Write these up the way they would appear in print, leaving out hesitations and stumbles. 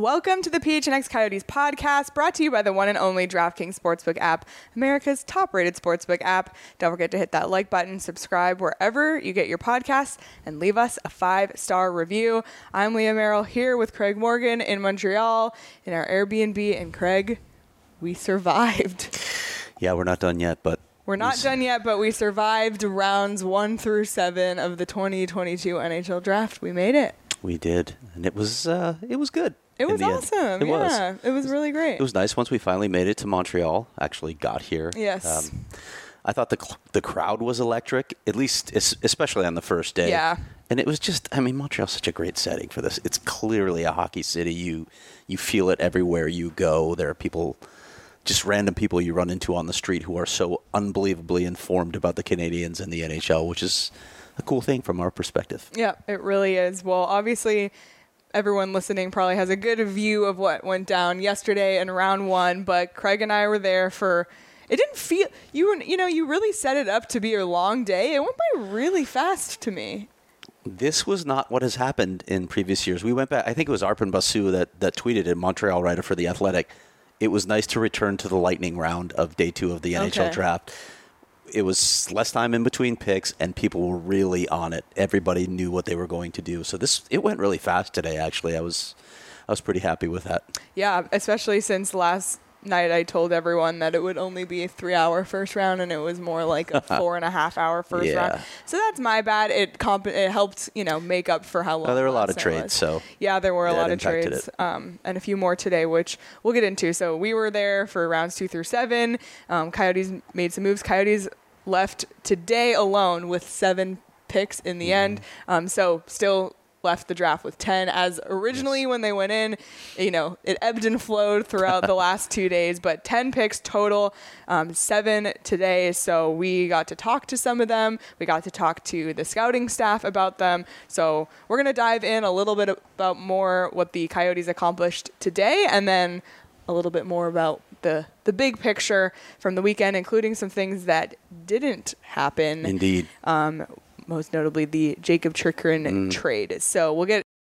Welcome to the PHNX Coyotes podcast, brought to you by the one and only DraftKings Sportsbook app, America's top-rated sportsbook app. Don't forget to hit that like button, subscribe wherever you get your podcasts, and leave us a 5-star review. I'm Leah Merrill here with Craig Morgan in Montreal in our Airbnb. And Craig, we survived. Yeah, we're not done yet, but... We're not done yet, but we survived rounds 1 through 7 of the 2022 NHL draft. We made it. We did, and it was good. It was awesome. It was really great. It was nice once we finally made it to Montreal, actually got here. Yes. I thought the crowd was electric, at least especially on the first day. Yeah. And it was just, I mean, Montreal's such a great setting for this. It's clearly a hockey city. You feel it everywhere you go. There are people, just random people you run into on the street who are so unbelievably informed about the Canadiens and the NHL, which is a cool thing from our perspective. Yeah, it really is. Well, obviously, everyone listening probably has a good view of what went down yesterday in round 1, but Craig and I were there for, it didn't feel, you really set it up to be a long day. It went by really fast to me. This was not what has happened in previous years. We went back, I think it was Arpon Basu that tweeted it, Montreal writer for The Athletic. It was nice to return to the lightning round of day 2 of the NHL draft. It was less time in between picks, and people were really on it. Everybody knew what they were going to do. So it went really fast today, actually. I was pretty happy with that. Yeah, especially since last night I told everyone that it would only be a 3-hour first round, and it was more like a 4.5-hour first round. So that's my bad. It helped, make up for how long. There were a lot of trades, so yeah, there were a lot of trades, and a few more today, which we'll get into. So we were there for rounds 2 through 7. Coyotes made some moves. Coyotes left today alone with 7 picks in the end. So still left the draft with 10, as originally when they went in, it ebbed and flowed throughout the last 2 days, but 10 picks total, 7 today. So we got to talk to some of them. We got to talk to the scouting staff about them. So we're going to dive in a little bit about more what the Coyotes accomplished today, and then a little bit more about the big picture from the weekend, including some things that didn't happen. Indeed. Most notably the Jacob Chychrun trade. So we'll get,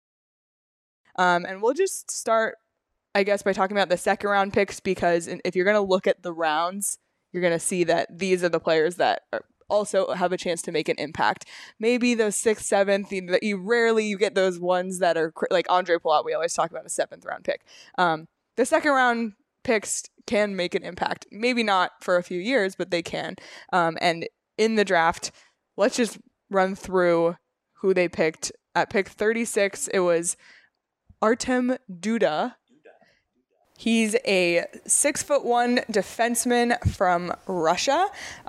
and we'll just start, I guess, by talking about the second round picks, because if you're going to look at the rounds, you're going to see that these are the players that also have a chance to make an impact. Maybe the 6th, 7th, you get those ones that are like Andre Palat. We always talk about a 7th round pick. The second round picks can make an impact. Maybe not for a few years, but they can. And in the draft, let's just run through who they picked. At pick 36, it was Artem Duda. He's a 6'1" defenseman from Russia.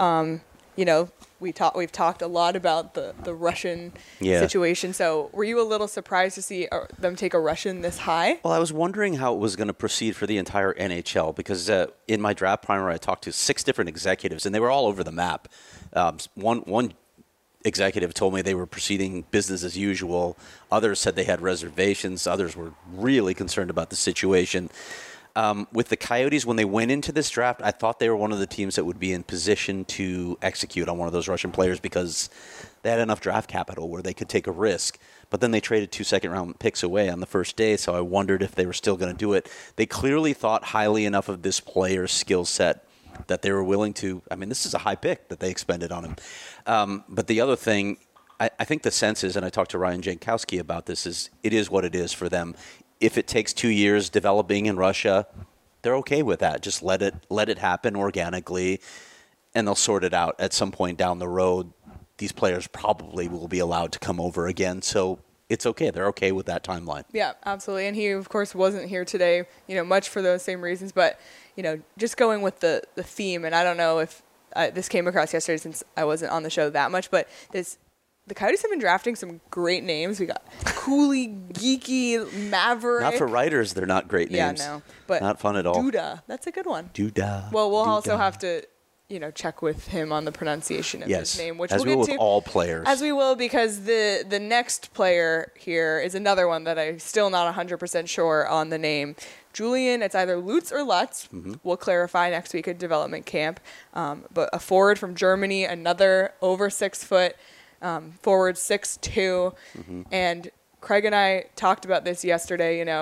We've talked a lot about the Russian situation. So were you a little surprised to see them take a Russian this high? Well, I was wondering how it was going to proceed for the entire NHL, because in my draft primer, I talked to 6 different executives, and they were all over the map. One executive told me they were proceeding business as usual. Others said they had reservations. Others were really concerned about the situation. With the Coyotes, when they went into this draft, I thought they were one of the teams that would be in position to execute on one of those Russian players, because they had enough draft capital where they could take a risk. But then they traded 2 second-round picks away on the first day, so I wondered if they were still going to do it. They clearly thought highly enough of this player's skill set that they were willing to. I mean, this is a high pick that they expended on him. But the other thing, I think the sense is, and I talked to Ryan Jankowski about this, is it is what it is for them. If it takes 2 years developing in Russia, they're okay with that. Just let it happen organically, and they'll sort it out at some point down the road. These players probably will be allowed to come over again, so it's okay. They're okay with that timeline. Yeah, absolutely. And he, of course, wasn't here today, much for those same reasons. But, just going with the theme, and I don't know if this came across yesterday since I wasn't on the show that much, but the Coyotes have been drafting some great names. We got Cooley, Geeky, Maverick. Not for writers, they're not great names. Yeah, no. But not fun at all. Duda, that's a good one. Duda. Well, we'll Duda. also have to, check with him on the pronunciation of his name, which as we'll we get will to. All players. As we will, because the next player here is another one that I'm still not 100% sure on the name. Julian, it's either Lutz or Lutz. Mm-hmm. We'll clarify next week at development camp. But a forward from Germany, another over 6 foot. Forward 6'2", and Craig and I talked about this yesterday.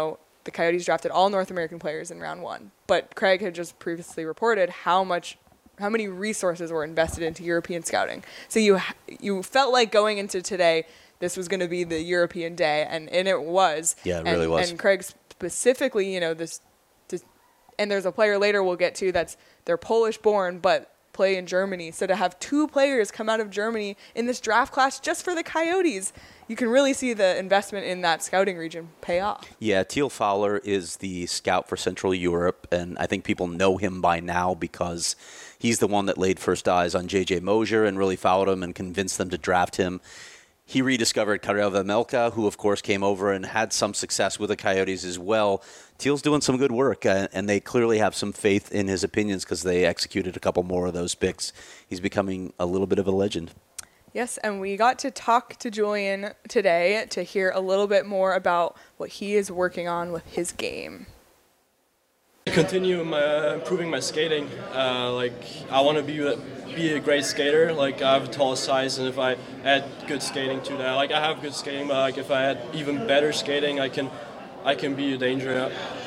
the Coyotes drafted all North American players in round 1. But Craig had just previously reported how many resources were invested into European scouting. So you felt like going into today, this was going to be the European day, and it was. Yeah, it really was. And Craig specifically, and there's a player later we'll get to they're Polish born, but play in Germany. So to have 2 players come out of Germany in this draft class just for the Coyotes, you can really see the investment in that scouting region pay off. Yeah, Teal Fowler is the scout for Central Europe, and I think people know him by now because he's the one that laid first eyes on J.J. Mosier and really followed him and convinced them to draft him. He rediscovered Karel Vejmelka, who, of course, came over and had some success with the Coyotes as well. Teal's doing some good work, and they clearly have some faith in his opinions because they executed a couple more of those picks. He's becoming a little bit of a legend. Yes, and we got to talk to Julian today to hear a little bit more about what he is working on with his game. Continue improving my skating. I want to be a great skater. I have a tall size, and if I add good skating to that, I have good skating, but if I add even better skating, I can be a danger.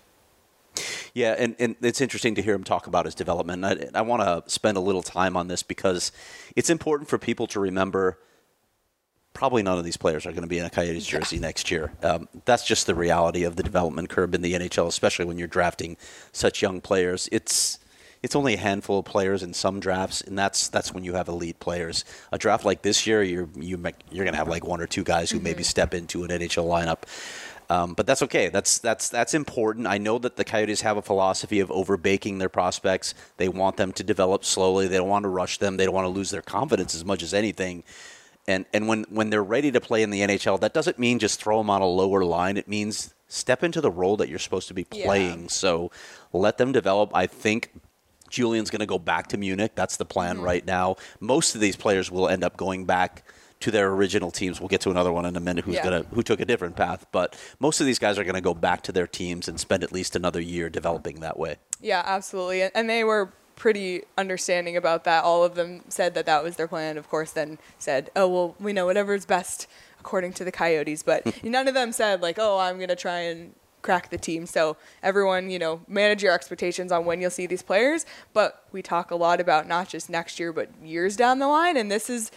Yeah, and it's interesting to hear him talk about his development. I want to spend a little time on this because it's important for people to remember probably none of these players are going to be in a Coyotes jersey next year. That's just the reality of the development curve in the NHL, especially when you're drafting such young players. It's only a handful of players in some drafts, and that's when you have elite players. A draft like this year, you're going to have 1 or 2 guys who maybe step into an NHL lineup. But that's okay. That's important. I know that the Coyotes have a philosophy of overbaking their prospects. They want them to develop slowly. They don't want to rush them. They don't want to lose their confidence as much as anything. And when they're ready to play in the NHL, that doesn't mean just throw them on a lower line. It means step into the role that you're supposed to be playing. Yeah. So let them develop. I think Julian's going to go back to Munich. That's the plan right now. Most of these players will end up going back to their original teams. We'll get to another one in a minute who took a different path. But most of these guys are going to go back to their teams and spend at least another year developing that way. Yeah, absolutely. And they were pretty understanding about that. All of them said that was their plan. Of course, then said, oh, well, we know whatever's best according to the Coyotes. But none of them said, I'm going to try and crack the team. So everyone, manage your expectations on when you'll see these players. But we talk a lot about not just next year, but years down the line. And this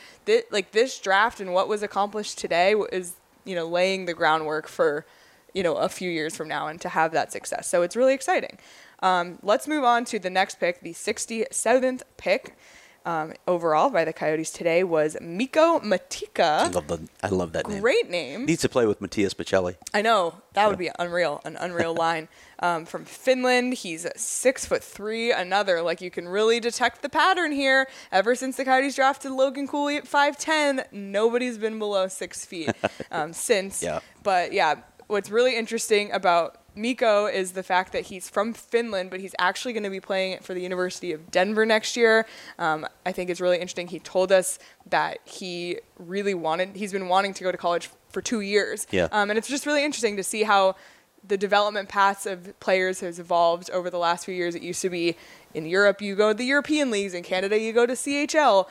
draft and what was accomplished today is, laying the groundwork for, a few years from now and to have that success. So it's really exciting. Let's move on to the next pick. The 67th pick overall by the Coyotes today was Mikko Matika. I love that name. Great name. Needs to play with Mattias Pacelli. I know. That would be unreal. An unreal line. From Finland. He's 6'3". Another, you can really detect the pattern here. Ever since the Coyotes drafted Logan Cooley at 5'10", nobody's been below 6 feet since. Yeah. But yeah, what's really interesting about Mikko is the fact that he's from Finland, but he's actually going to be playing for the University of Denver next year. I think it's really interesting. He told us that he's been wanting to go to college for 2 years. Yeah. And it's just really interesting to see how the development paths of players has evolved over the last few years. It used to be in Europe, you go to the European leagues. In Canada, you go to CHL.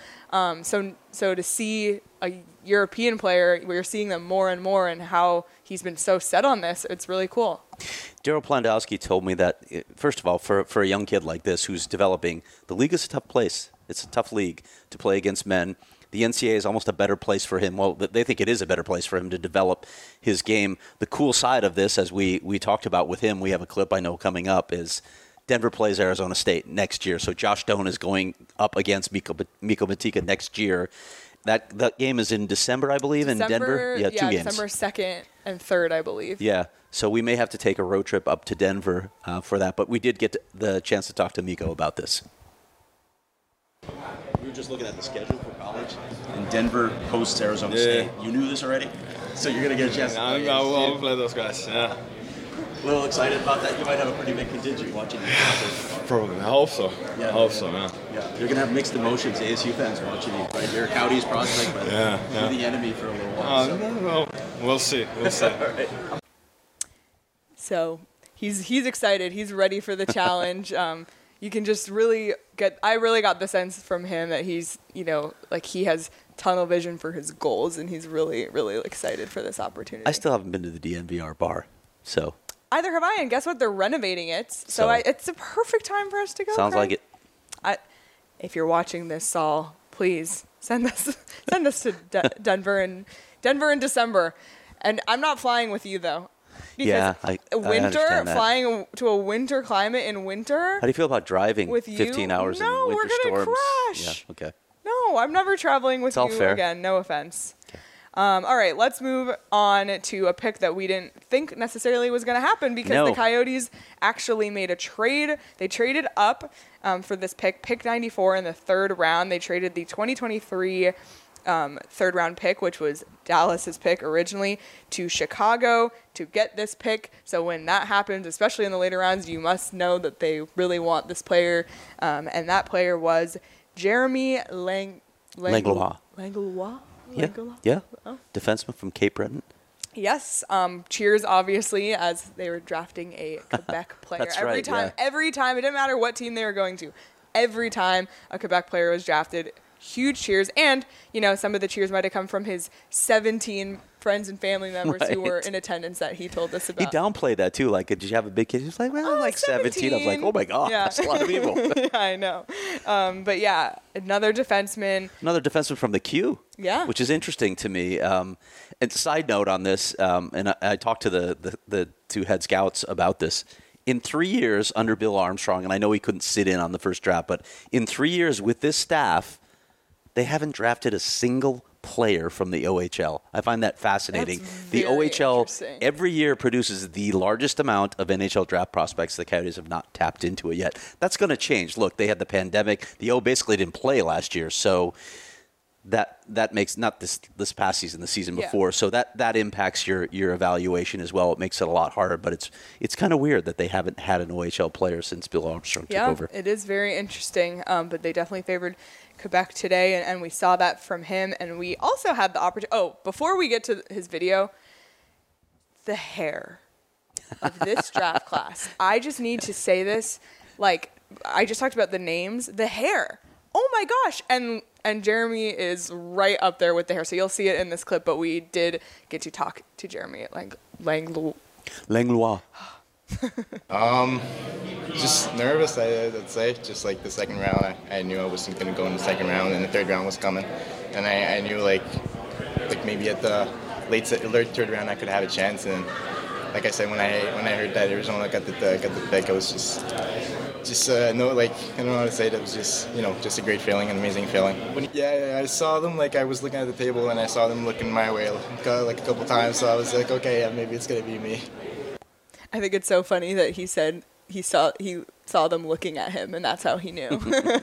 So to see a European player, we're seeing them more and more, and how he's been so set on this, it's really cool. Daryl Plandowski told me that, first of all, for a young kid like this who's developing, the league is a tough place. It's a tough league to play against men. The NCAA is almost a better place for him. Well, they think it is a better place for him to develop his game. The cool side of this, as we talked about with him, we have a clip I know coming up, is Denver plays Arizona State next year. So Josh Doan is going up against Mikko Matika next year. That game is in December, I believe, in Denver. Yeah, 2 games. December 2nd and 3rd, I believe. Yeah, so we may have to take a road trip up to Denver for that. But we did get the chance to talk to Mikko about this. We were just looking at the schedule for college, and Denver hosts Arizona State. You knew this already? So you're going to get a chance to play. I'll play those guys, yeah. A little excited about that. You might have a pretty big contingent watching you. Probably. I hope so. Yeah. I hope so, man. Yeah. You're going to have mixed emotions, ASU fans watching you, right? You're a Coyotes prospect, but you're the enemy for a little while. No. We'll see. We'll see. Right. So he's excited. He's ready for the challenge. You can just really I really got the sense from him that he's, he has tunnel vision for his goals, and he's really, really excited for this opportunity. I still haven't been to the DNVR bar, so Either have I, and guess what? They're renovating it. So it's a perfect time for us to go. Sounds like it. If you're watching this, Saul, please send us to Denver in December. And I'm not flying with you, though. Yeah, I understand that. Flying to a winter climate in winter. How do you feel about driving with 15 hours in winter storms? No, we're going to crash. Yeah, okay. No, I'm never traveling with you again. No offense. Okay. All right, let's move on to a pick that we didn't think necessarily was going to happen because the Coyotes actually made a trade. They traded up for this pick 94 in the third round. They traded the 2023 third round pick, which was Dallas's pick originally, to Chicago to get this pick. So when that happens, especially in the later rounds, you must know that they really want this player. And that player was Jeremy Langlois. Langlois? Yeah. Oh. Defenseman from Cape Breton. Yes. Cheers, obviously, as they were drafting a Quebec player. That's every time. Every time. It didn't matter what team they were going to. Every time a Quebec player was drafted, huge cheers. And, some of the cheers might have come from his 17 friends and family members who were in attendance that he told us about. He downplayed that, too. Like, did you have a big kid? He was like, well, like 17. I was like, oh, my God, that's a lot of people. Yeah, I know. But, yeah, another defenseman. Another defenseman from the Q. Yeah. Which is interesting to me. And side note on this, and I talked to the two head scouts about this. In 3 years under Bill Armstrong, and I know he couldn't sit in on the first draft, but in 3 years with this staff, they haven't drafted a single player from the OHL. I find that fascinating. The OHL every year produces the largest amount of NHL draft prospects. The Coyotes have not tapped into it yet. That's going to change. Look, they had the pandemic. The O basically didn't play last year, so that makes not this past season, the season before. So that impacts your evaluation as well. It makes it a lot harder. But it's kind of weird that they haven't had an OHL player since Bill Armstrong took over. Yeah, it is very interesting. But they definitely favored Quebec today, and we saw that from him. And we also had the opportunity. Oh, before we get to his video, the hair of this draft class. I just need to say this. Like, I just talked about the names. The hair. Oh my gosh. And Jeremy is right up there with the hair. So you'll see it in this clip, but we did get to talk to Jeremy at Langlois. Just nervous, I'd say. Just like the second round, I knew I wasn't going to go in the second round, and the third round was coming. And I knew like maybe at the late third round I could have a chance. And like I said, when I heard that Arizona got the pick, I was just no, like, I don't know how to say it. It was just, just a great feeling, an amazing feeling. I saw them, like, I was looking at the table and I saw them looking my way, like a couple times. So I was like, okay, yeah, maybe it's gonna be me. I think it's so funny that he said he saw them looking at him, and that's how he knew.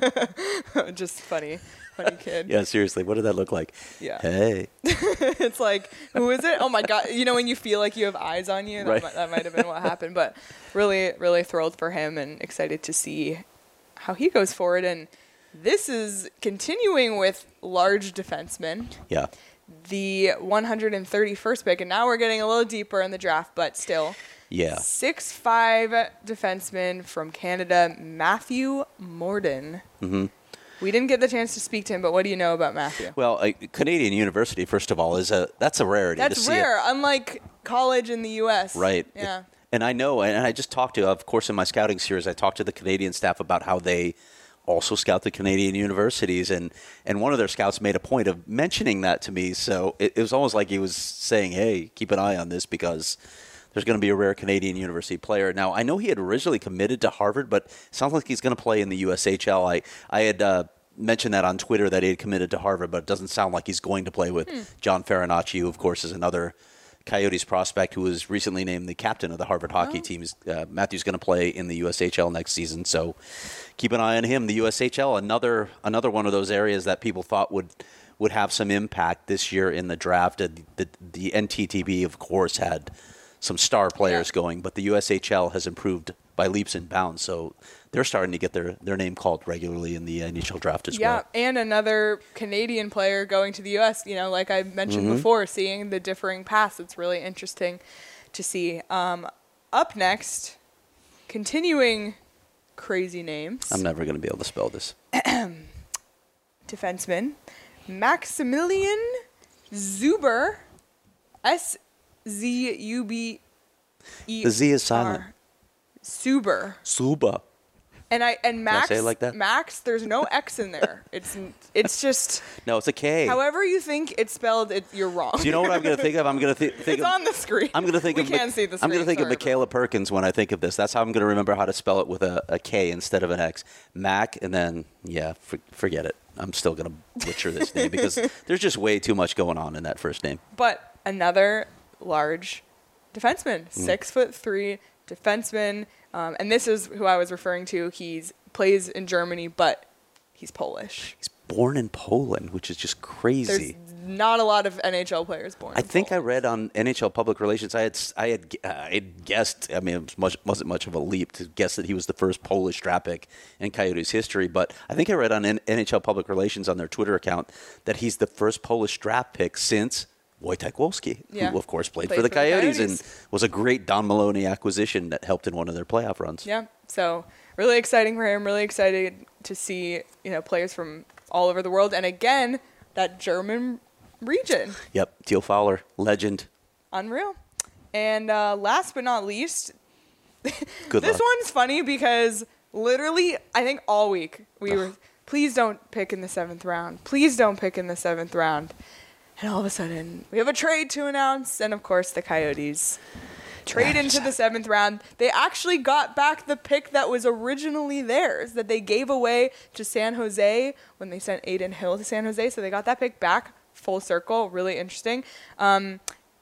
Just funny kid. Yeah, seriously, what did that look like? Yeah. Hey. It's like, who is it? Oh my God! When you feel like you have eyes on you, right. that might have been what happened. But really, really thrilled for him and excited to see how he goes forward. And this is continuing with large defensemen. Yeah. The 131st pick, and now we're getting a little deeper in the draft, but still. Yeah. 6'5" defenseman from Canada, Matthew Morden. Mm-hmm. We didn't get the chance to speak to him, but what do you know about Matthew? Well, Canadian University, first of all, that's a rarity. That's rare, unlike college in the U.S. Right. Yeah. And I know, and I just talked to, of course, in my scouting series, I talked to the Canadian staff about how they also scout the Canadian universities, and one of their scouts made a point of mentioning that to me. So it was almost like he was saying, hey, keep an eye on this because there's going to be a rare Canadian university player. Now, I know he had originally committed to Harvard, but it sounds like he's going to play in the USHL. I had mentioned that on Twitter that he had committed to Harvard, but it doesn't sound like he's going to play with John Farinacci, who, of course, is another Coyotes prospect who was recently named the captain of the Harvard hockey team. Matthew's going to play in the USHL next season, so keep an eye on him. The USHL, another one of those areas that people thought would have some impact this year in the draft. The NTTB, of course, had some star players going, but the USHL has improved by leaps and bounds, so they're starting to get their name called regularly in the initial draft as well. Yeah, and another Canadian player going to the U.S., like I mentioned before, seeing the differing paths. It's really interesting to see. Up next, continuing crazy names. I'm never going to be able to spell this. Defenseman, Maximilian Zuber, SZUB. The Z is silent. Suber. Suba. And Max, say it like that? Max, there's no X in there. It's just No, it's a K. however you think it's spelled, you're wrong. Do you know what I'm going to think of? I'm going to think It's of, on the screen. I'm going to think we of. can't see the screen. I'm going to think of sorry, Michaela Perkins when I think of this. That's how I'm going to remember how to spell it with a K instead of an X. Mac, and then forget it. I'm still going to butcher this name because there's just way too much going on in that first name. But another large defenseman, 6'3" defenseman, and this is who I was referring to. He's plays in Germany, but he's Polish. He's born in Poland, which is just crazy. There's not a lot of NHL players born. I think I read on NHL Public Relations. I had guessed. I mean, it wasn't much of a leap to guess that he was the first Polish draft pick in Coyotes history. But I think I read on NHL Public Relations on their Twitter account that he's the first Polish draft pick since Wojtek Wolski, who of course played for the Coyotes and was a great Don Maloney acquisition that helped in one of their playoff runs. Yeah, so really exciting for him. Really excited to see players from all over the world, and again that German region. Yep, Teal Fowler, legend. Unreal. And last but not least, Good this luck. one's funny because literally I think all week we were, please don't pick in the 7th round. Please don't pick in the 7th round. And all of a sudden, we have a trade to announce, and of course, the Coyotes trade into the 7th round. They actually got back the pick that was originally theirs, that they gave away to San Jose when they sent Aiden Hill to San Jose. So they got that pick back, full circle, really interesting. Adam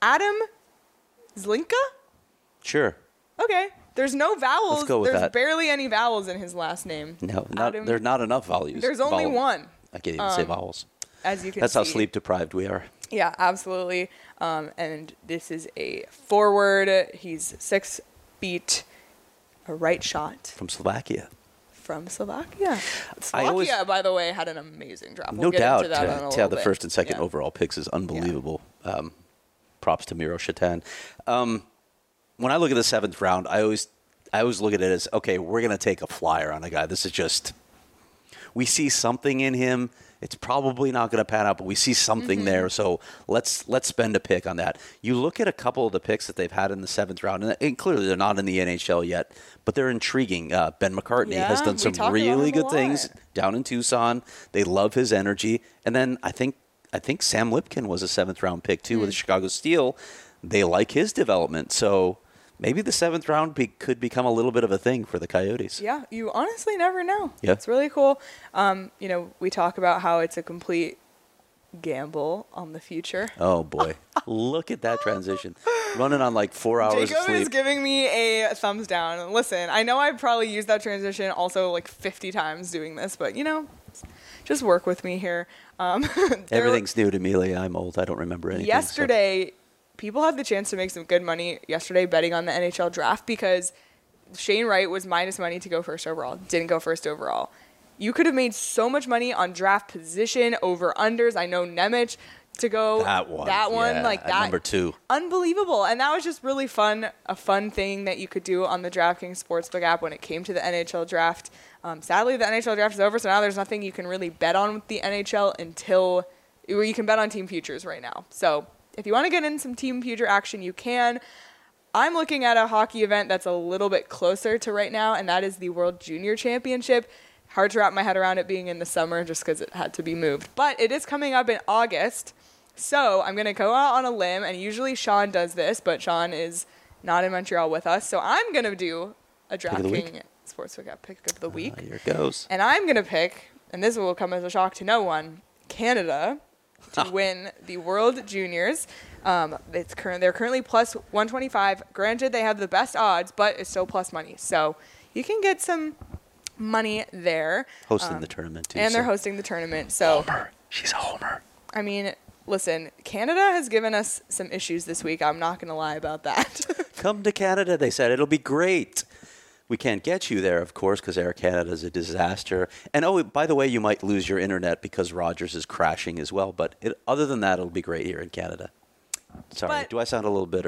Zlinka? Sure. Okay. There's no vowels. Let's go with There's that. barely any vowels in his last name. No, Adam- there's not enough values. There's only one, I can't even say vowels. as you can That's see. how sleep deprived we are. Yeah, absolutely. And this is a forward. He's 6 feet, a right shot From Slovakia. from Slovakia. I always- Slovakia, by the way, had an amazing draft. No We'll get doubt. into that in a To little have the bit. first and second Yeah. overall picks is unbelievable. Props to Miro Shatan. When I look at the 7th round, I always look at it as, okay, we're going to take a flyer on a guy. This is just, we see something in him. It's probably not going to pan out, but we see something there. So let's spend a pick on that. You look at a couple of the picks that they've had in the 7th round, and clearly they're not in the NHL yet, but they're intriguing. Ben McCartney has Yeah, done we some talk about really him a good things lot. down in Tucson. They love his energy. And then I think Sam Lipkin was a 7th round pick too with the Chicago Steel. They like his development. So maybe the 7th round could become a little bit of a thing for the Coyotes. Yeah, you honestly never know. Yeah. It's really cool. We talk about how it's a complete gamble on the future. Oh, boy. Look at that transition. Running on like 4 hours Jacob of sleep. is giving me a thumbs down. Listen, I know I probably used that transition also like 50 times doing this, but just work with me here. Everything's new to me, Leah. I'm old. I don't remember anything. so- Yesterday, people had the chance to make some good money yesterday betting on the NHL draft because Shane Wright was minus money to go first overall. Didn't go first overall. You could have made so much money on draft position, over-unders. I know Nemec to go. That one. Yeah, like like that. Number 2. Unbelievable. And that was just really fun, a fun thing that you could do on the DraftKings Sportsbook app when it came to the NHL draft. Sadly, the NHL draft is over, so now there's nothing you can really bet on with the NHL until you can bet on team futures right now. So if you want to get in some team future action, you can. I'm looking at a hockey event that's a little bit closer to right now, and that is the World Junior Championship. Hard to wrap my head around it being in the summer just because it had to be moved. But it is coming up in August. So I'm going to go out on a limb, and usually Sean does this, but Sean is not in Montreal with us. So I'm going to do a of the DraftKings Sportsbook app pick of the week. Here it goes. And I'm going to pick, and this will come as a shock to no one, Canada to win the World Juniors. They're currently plus 125. Granted, they have the best odds, but it's still plus money. So you can get some money there. Hosting the tournament, too. And they're so- hosting the tournament. So, Homer. She's a homer. I mean, listen, Canada has given us some issues this week. I'm not going to lie about that. Come to Canada, they said. It'll be great. We can't get you there, of course, because Air Canada is a disaster. And, oh, by the way, you might lose your internet because Rogers is crashing as well. But other than that, it'll be great here in Canada. Sorry, But- do I sound a little bitter?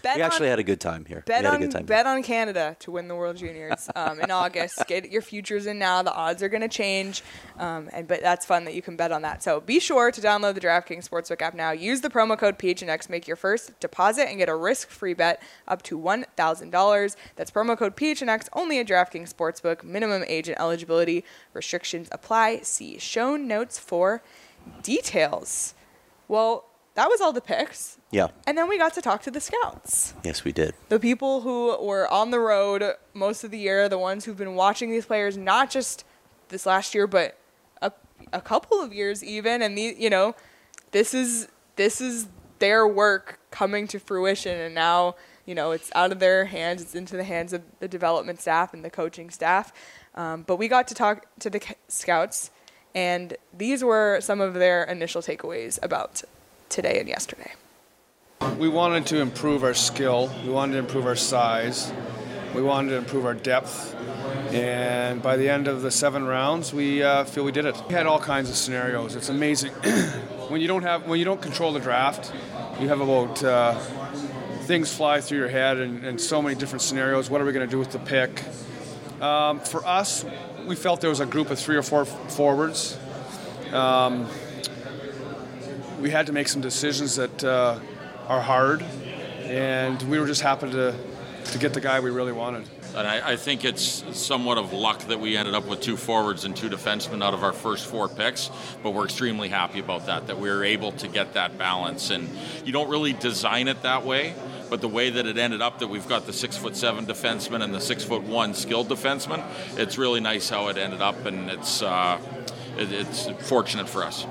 Bet We actually on- had a good time here. Bet we had on a good time bet on Canada to win the World Juniors in August. Get your futures in now. The odds are going to change, but that's fun that you can bet on that. So be sure to download the DraftKings Sportsbook app now. Use the promo code PHNX. Make your first deposit and get a risk-free bet up to $1,000. That's promo code PHNX only at DraftKings Sportsbook. Minimum age and eligibility restrictions apply. See show notes for details. Well, that was all the picks. Yeah. And then we got to talk to the scouts. Yes, we did. The people who were on the road most of the year, the ones who've been watching these players, not just this last year, but a couple of years even. And, this is their work coming to fruition. And now, it's out of their hands. It's into the hands of the development staff and the coaching staff. But we got to talk to the scouts, and these were some of their initial takeaways about today and yesterday. We wanted to improve our skill. We wanted to improve our size. We wanted to improve our depth. And by the end of the 7 rounds, we feel we did it. We had all kinds of scenarios. It's amazing. when you don't control the draft, you have about things fly through your head and so many different scenarios. What are we going to do with the pick? For us, we felt there was a group of 3 or 4 forwards. We had to make some decisions that are hard, and we were just happy to get the guy we really wanted. And I think it's somewhat of luck that we ended up with 2 forwards and 2 defensemen out of our first 4 picks, but we're extremely happy about that we were able to get that balance. And you don't really design it that way, but the way that it ended up, that we've got the 6'7" defenseman and the 6'1" skilled defenseman, it's really nice how it ended up, and it's fortunate for us.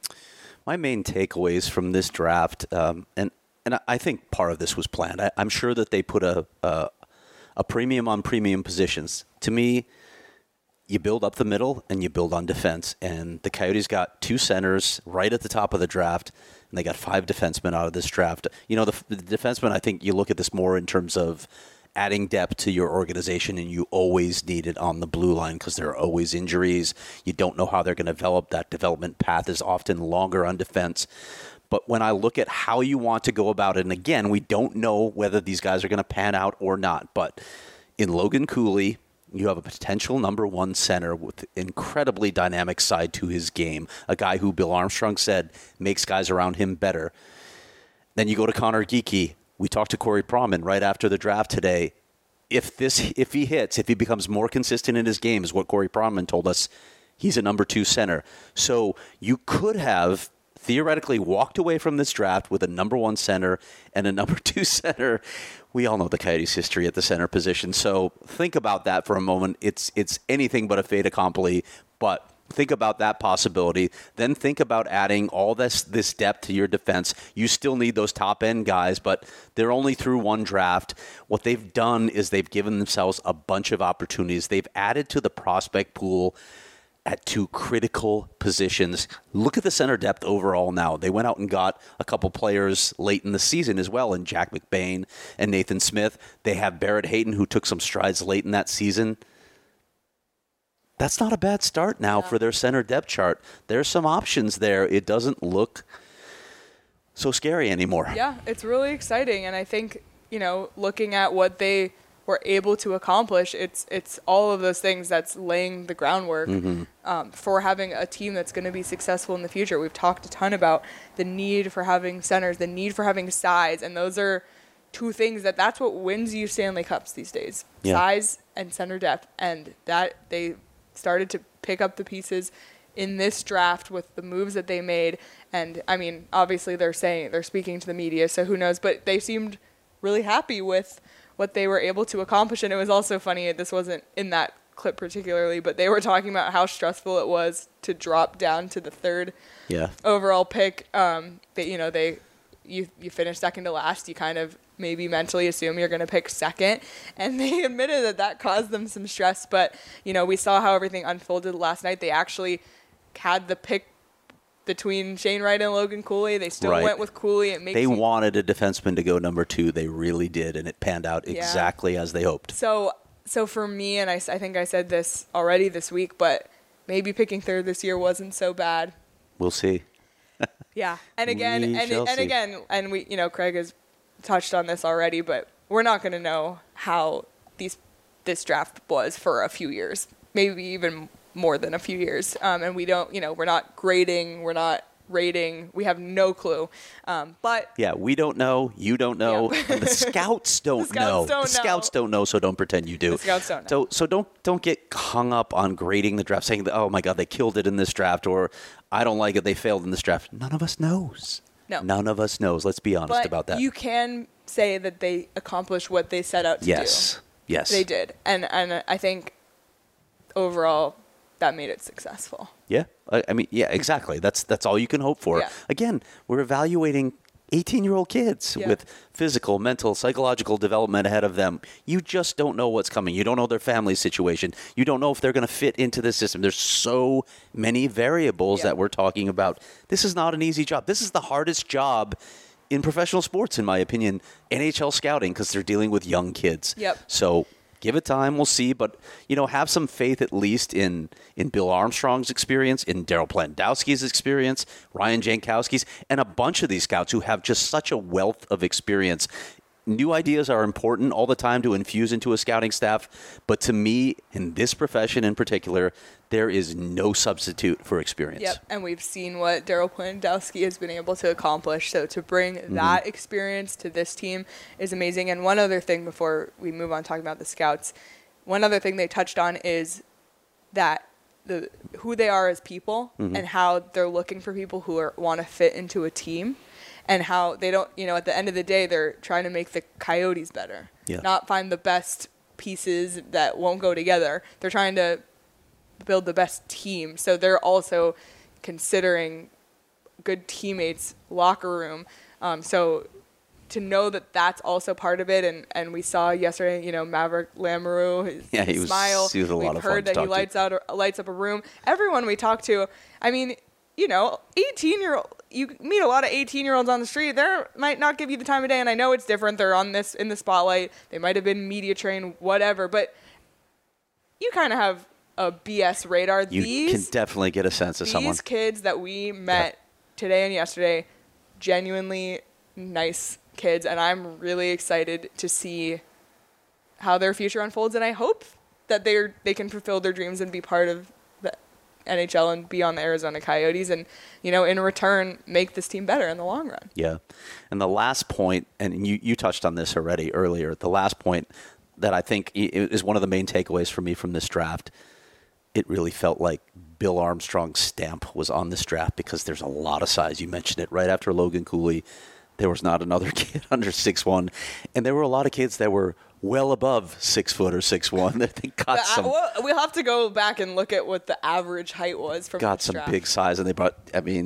My main takeaways from this draft, and I think part of this was planned. I'm sure that they put a premium on premium positions. To me, you build up the middle and you build on defense. And the Coyotes got 2 centers right at the top of the draft, and they got 5 defensemen out of this draft. The defensemen, I think you look at this more in terms of adding depth to your organization, and you always need it on the blue line because there are always injuries. You don't know how they're going to develop. That development path is often longer on defense. But when I look at how you want to go about it, and again, we don't know whether these guys are going to pan out or not, but in Logan Cooley, you have a potential number 1 center with incredibly dynamic side to his game, a guy who Bill Armstrong said makes guys around him better. Then you go to Connor Geekie. We talked to Corey Pronman right after the draft today. If he becomes more consistent in his game, is what Corey Pronman told us, he's a number 2 center. So you could have theoretically walked away from this draft with a number 1 center and a number 2 center. We all know the Coyotes' history at the center position, so think about that for a moment. It's anything but a fait accompli, but think about that possibility. Then think about adding all this depth to your defense. You still need those top-end guys, but they're only through 1 draft. What they've done is they've given themselves a bunch of opportunities. They've added to the prospect pool at 2 critical positions. Look at the center depth overall now. They went out and got a couple players late in the season as well, in Jack McBain and Nathan Smith. They have Barrett Hayton, who took some strides late in that season. That's not a bad start now for their center depth chart. There's some options there. It doesn't look so scary anymore. Yeah, it's really exciting. And I think, looking at what they were able to accomplish, it's all of those things that's laying the groundwork for having a team that's going to be successful in the future. We've talked a ton about the need for having centers, the need for having size, and those are 2 things that's what wins you Stanley Cups these days. Yeah. Size and center depth, and that they started to pick up the pieces in this draft with the moves that they made. And I mean, obviously they're speaking to the media, so who knows, but they seemed really happy with what they were able to accomplish. And it was also funny, this wasn't in that clip particularly, but they were talking about how stressful it was to drop down to the 3rd overall pick. You finish second to last, you kind of maybe mentally assume you're going to pick second, and they admitted that caused them some stress. But we saw how everything unfolded last night. They actually had the pick between Shane Wright and Logan Cooley. They still went with Cooley. They wanted a defenseman to go number 2. They really did, and it panned out exactly as they hoped. So for me, and I think I said this already this week, but maybe picking 3rd this year wasn't so bad. We'll see. Yeah, and again, Craig has touched on this already, but we're not going to know how this draft was for a few years, maybe even more than a few years. And we don't, we're not grading, we're not rating, we have no clue. But yeah, we don't know, you don't know, and the scouts don't know. The scouts don't know, so don't pretend you do. The scouts don't know. So don't get hung up on grading the draft, saying that, oh my God, they killed it in this draft, or I don't like it, they failed in this draft. None of us knows. No. None of us knows. Let's be honest about that. You can say that they accomplished what they set out to do. Yes. They did. And I think overall that made it successful. Yeah. I mean, yeah, exactly. That's all you can hope for. Yeah. Again, we're evaluating 18-year-old kids with physical, mental, psychological development ahead of them. You just don't know what's coming. You don't know their family situation. You don't know if they're going to fit into the system. There's so many variables that we're talking about. This is not an easy job. This is the hardest job in professional sports, in my opinion, NHL scouting, because they're dealing with young kids. Yep. So give it time. We'll see. But, have some faith at least in Bill Armstrong's experience, in Daryl Plandowski's experience, Ryan Jankowski's, and a bunch of these scouts who have just such a wealth of experience. New ideas are important all the time to infuse into a scouting staff. But to me, in this profession in particular, there is no substitute for experience. Yep, and we've seen what Daryl Plandowski has been able to accomplish. So to bring that experience to this team is amazing. And one other thing before we move on talking about the scouts, one other thing they touched on is that who they are as people and how they're looking for people who want to fit into a team. And how they don't, at the end of the day, they're trying to make the Coyotes better, not find the best pieces that won't go together. They're trying to build the best team. So they're also considering good teammates, locker room. So to know that that's also part of it. And we saw yesterday, Maverick Lamoureux, his smile. He was a lot We've of fun heard that he lights up a room. Everyone we talk to, 18-year-old, you meet a lot of 18-year-olds on the street. They might not give you the time of day, and I know it's different. They're in the spotlight. They might have been media trained, whatever, but you kind of have a BS radar. You can definitely get a sense of someone. These kids that we met today and yesterday, genuinely nice kids, and I'm really excited to see how their future unfolds, and I hope that they can fulfill their dreams and be part of the NHL and be on the Arizona Coyotes and, in return, make this team better in the long run. Yeah. And the last point, and you touched on this already earlier, the last point that I think is one of the main takeaways for me from this draft, it really felt like Bill Armstrong's stamp was on this draft because there's a lot of size. You mentioned it right after Logan Cooley. There was not another kid under 6'1", and there were a lot of kids that were well above 6 foot or 6'1". They got some. We'll have to go back and look at what the average height was from. Got some draft. Big size, and they brought.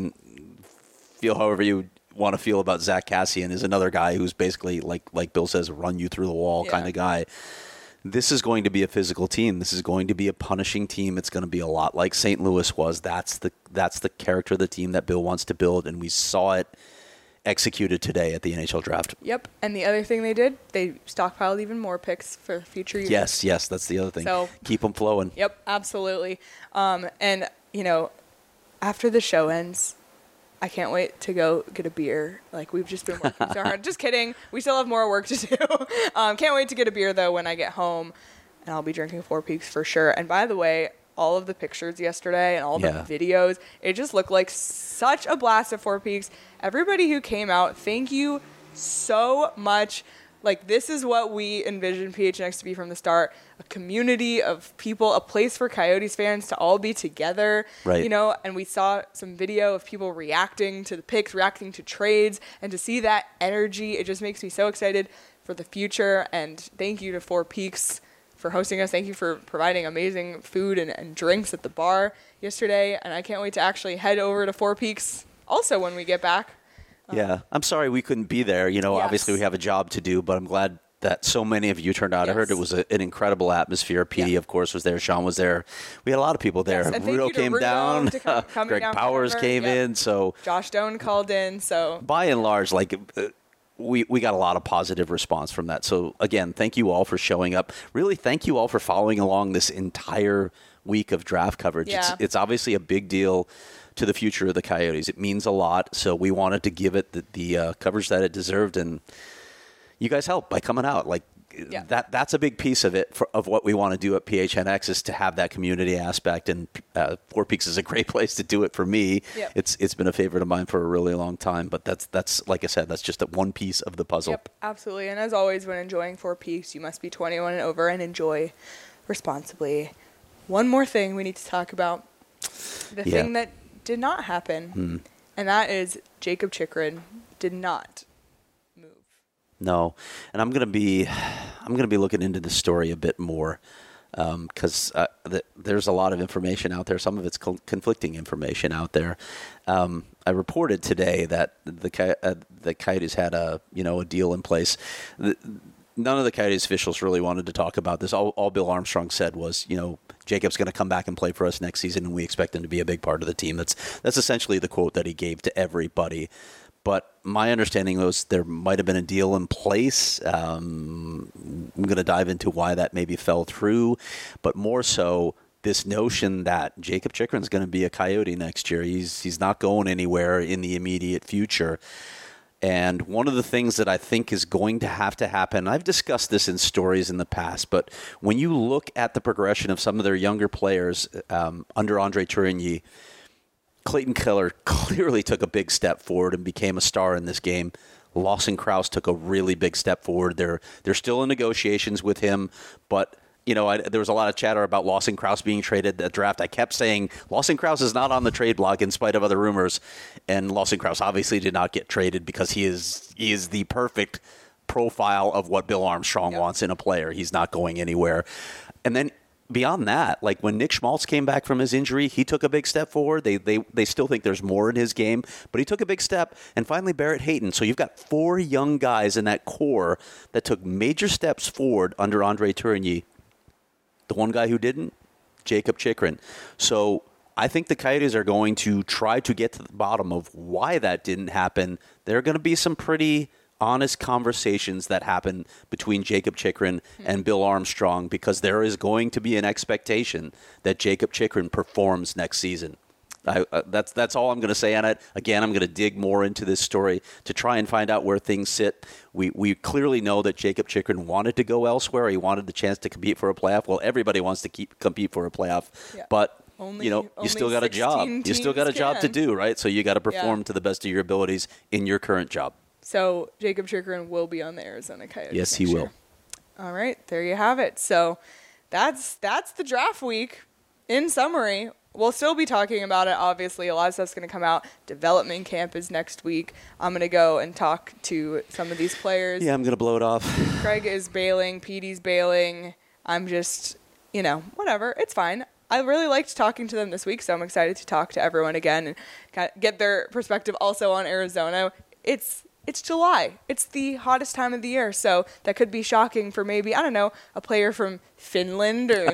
Feel however you want to feel about Zach Kassian is another guy who's basically like Bill says, run you through the wall kind of guy. This is going to be a physical team. This is going to be a punishing team. It's going to be a lot like St. Louis was. That's the character of the team that Bill wants to build, and we saw it executed today at the NHL draft. Yep. And the other thing they did, they stockpiled even more picks for future years. Yes, that's the other thing. So, keep them flowing. Yep, absolutely. And, after the show ends, I can't wait to go get a beer. We've just been working so hard. Just kidding. We still have more work to do. Can't wait to get a beer, though, when I get home. And I'll be drinking Four Peaks for sure. And by the way, all of the pictures yesterday and all the videos, it just looked like such a blast at Four Peaks. Everybody who came out, thank you so much. This is what we envisioned PHNX to be from the start. A community of people, a place for Coyotes fans to all be together. Right. And we saw some video of people reacting to the picks, reacting to trades, and to see that energy, it just makes me so excited for the future. And thank you to Four Peaks for hosting us. Thank you for providing amazing food and drinks at the bar yesterday. And I can't wait to actually head over to Four Peaks also when we get back. Yeah, I'm sorry we couldn't be there. Obviously we have a job to do, but I'm glad that so many of you turned out. Yes. I heard it was an incredible atmosphere. PD, of course, was there. Sean was there. We had a lot of people there. Yes, Rudo came down. Greg Powers came in. So Josh Doan called in. So by and large, we got a lot of positive response from that. So again, thank you all for showing up. Really, thank you all for following along this entire week of draft coverage. Yeah. It's obviously a big deal to the future of the Coyotes. It means a lot, so we wanted to give it the coverage that it deserved, and you guys help by coming out. Like Yeah. that's a big piece of it of what we want to do at PHNX is to have that community aspect. And Four Peaks is a great place to do it for me. Yep. It's been a favorite of mine for a really long time. But that's like I said, that's just one piece of the puzzle. Yep, absolutely. And as always, when enjoying Four Peaks, you must be 21 and over and enjoy responsibly. One more thing we need to talk about. The thing that did not happen, and that is Jakob Chychrun did not move. No, and I'm gonna be looking into the story a bit more because there's a lot of information out there. Some of it's conflicting information out there. I reported today that the Coyotes had a deal in place. None of the Coyotes officials really wanted to talk about this. All Bill Armstrong said was, Jacob's going to come back and play for us next season, and we expect him to be a big part of the team. That's essentially the quote that he gave to everybody. But my understanding was there might have been a deal in place. I'm going to dive into why that maybe fell through, but more so this notion that Jakob Chychrun's going to be a Coyote next year. He's not going anywhere in the immediate future. And one of the things that I think is going to happen, I've discussed this in stories in the past, but when you look at the progression of some of their younger players under Andre Tourigny, Clayton Keller clearly took a big step forward and became a star in this game. Lawson Crouse took a really big step forward. They're still in negotiations with him, but there was a lot of chatter about Lawson Crouse being traded at the draft. I kept saying Lawson Crouse is not on the trade block in spite of other rumors, and Lawson Crouse obviously did not get traded because he is the perfect profile of what Bill Armstrong wants in a player. He's not going anywhere. And then beyond that, like when Nick Schmaltz came back from his injury, he took a big step forward. They still think there's more in his game, but he took a big step. And finally, Barrett Hayton. So you've got 4 young guys in that core that took major steps forward under Andre Tourigny. The one guy who didn't, Jakob Chychrun. So I think the Coyotes are going to try to get to the bottom of why that didn't happen. There are going to be some pretty honest conversations that happen between Jakob Chychrun and Bill Armstrong because there is going to be an expectation that Jakob Chychrun performs next season. That's all I'm going to say on it. Again, I'm going to dig more into this story to try and find out where things sit. We clearly know that Jakob Chychrun wanted to go elsewhere. He wanted the chance to compete for a playoff. Well, everybody wants to compete for a playoff, but you still got a job. You still got a job to do, right? So you got to perform to the best of your abilities in your current job. So Jakob Chychrun will be on the Arizona Coyotes. Yes, he will. All right, there you have it. So that's the draft week. In summary, we'll still be talking about it. Obviously, a lot of stuff's going to come out. Development camp is next week. I'm going to go and talk to some of these players. Yeah, I'm going to blow it off. Craig is bailing. Petey's bailing. I'm just, whatever. It's fine. I really liked talking to them this week, so I'm excited to talk to everyone again and kind of get their perspective also on Arizona. It's July. It's the hottest time of the year, so that could be shocking for maybe, I don't know, a player from Finland or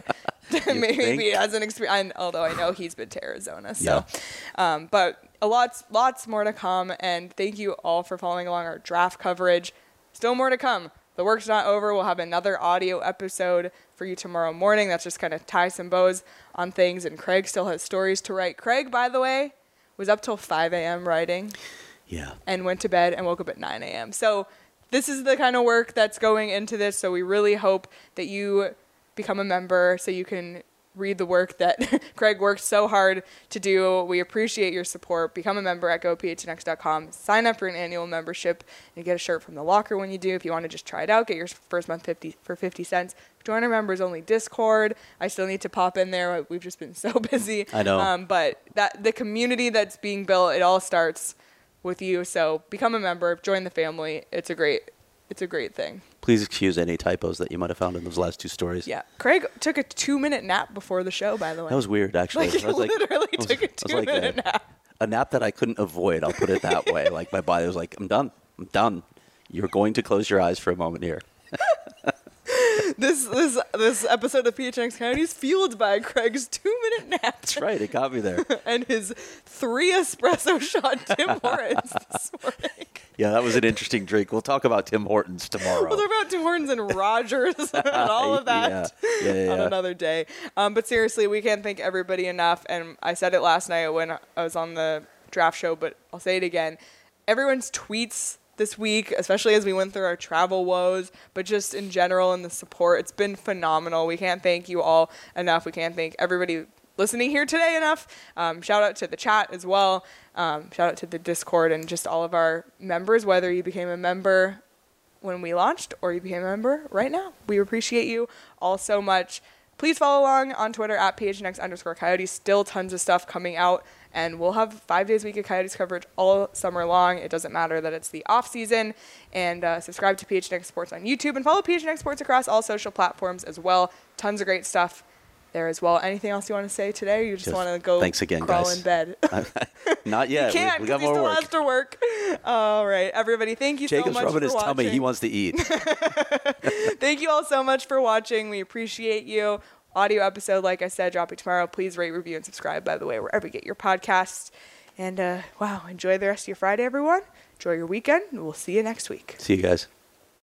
maybe as an experience. Although I know he's been to Arizona, so. Yeah. But lots more to come, and thank you all for following along our draft coverage. Still more to come. The work's not over. We'll have another audio episode for you tomorrow morning. That's just kind of tie some bows on things, and Craig still has stories to write. Craig, by the way, was up till 5 a.m. writing. Yeah. And went to bed and woke up at 9 a.m. So this is the kind of work that's going into this. So we really hope that you become a member so you can read the work that Craig worked so hard to do. We appreciate your support. Become a member at gophnx.com. Sign up for an annual membership and get a shirt from the locker when you do. If you want to just try it out, get your first month for 50 cents. Join our members only Discord. I still need to pop in there. We've just been so busy. I know. But the community that's being built, it all starts with you. So become a member, join the family. It's a great thing. Please excuse any typos that you might have found in those last 2 stories. Yeah. Craig took a 2-minute nap before the show, by the way. That was weird, actually. Took a 2-minute nap. A nap that I couldn't avoid, I'll put it that way. Like my body was like, I'm done. You're going to close your eyes for a moment here. This episode of PHNX Coyotes fueled by Craig's 2-minute nap. That's right. It got me there. And his 3 espresso shot Tim Hortons this morning. Yeah, that was an interesting drink. We'll talk about Tim Hortons tomorrow. We'll talk about Tim Hortons and Rogers and all of that on another day. But seriously, we can't thank everybody enough. And I said it last night when I was on the draft show, but I'll say it again. Everyone's tweets this week, especially as we went through our travel woes, but just in general and the support. It's been phenomenal. We can't thank you all enough. We can't thank everybody listening here today enough. Shout out to the chat as well. Shout out to the Discord and just all of our members, whether you became a member when we launched or you became a member right now. We appreciate you all so much. Please follow along on Twitter at PHNX_Coyotes. Still tons of stuff coming out, and we'll have 5 days a week of Coyotes coverage all summer long. It doesn't matter that it's the off season. And subscribe to PHNX Sports on YouTube and follow PHNX Sports across all social platforms as well. Tons of great stuff there as well. Anything else you want to say today? Or you just want to go thanks again, crawl guys. in bed? Not yet. You can't, we got he more still work. has to work. All right, everybody. Thank you Jacob's so much for rubbing his watching. tummy. He wants to eat. Thank you all so much for watching. We appreciate you. Audio episode, like I said, dropping tomorrow. Please rate, review, and subscribe, by the way, wherever you get your podcasts. And, wow, enjoy the rest of your Friday, everyone. Enjoy your weekend. And we'll see you next week. See you guys.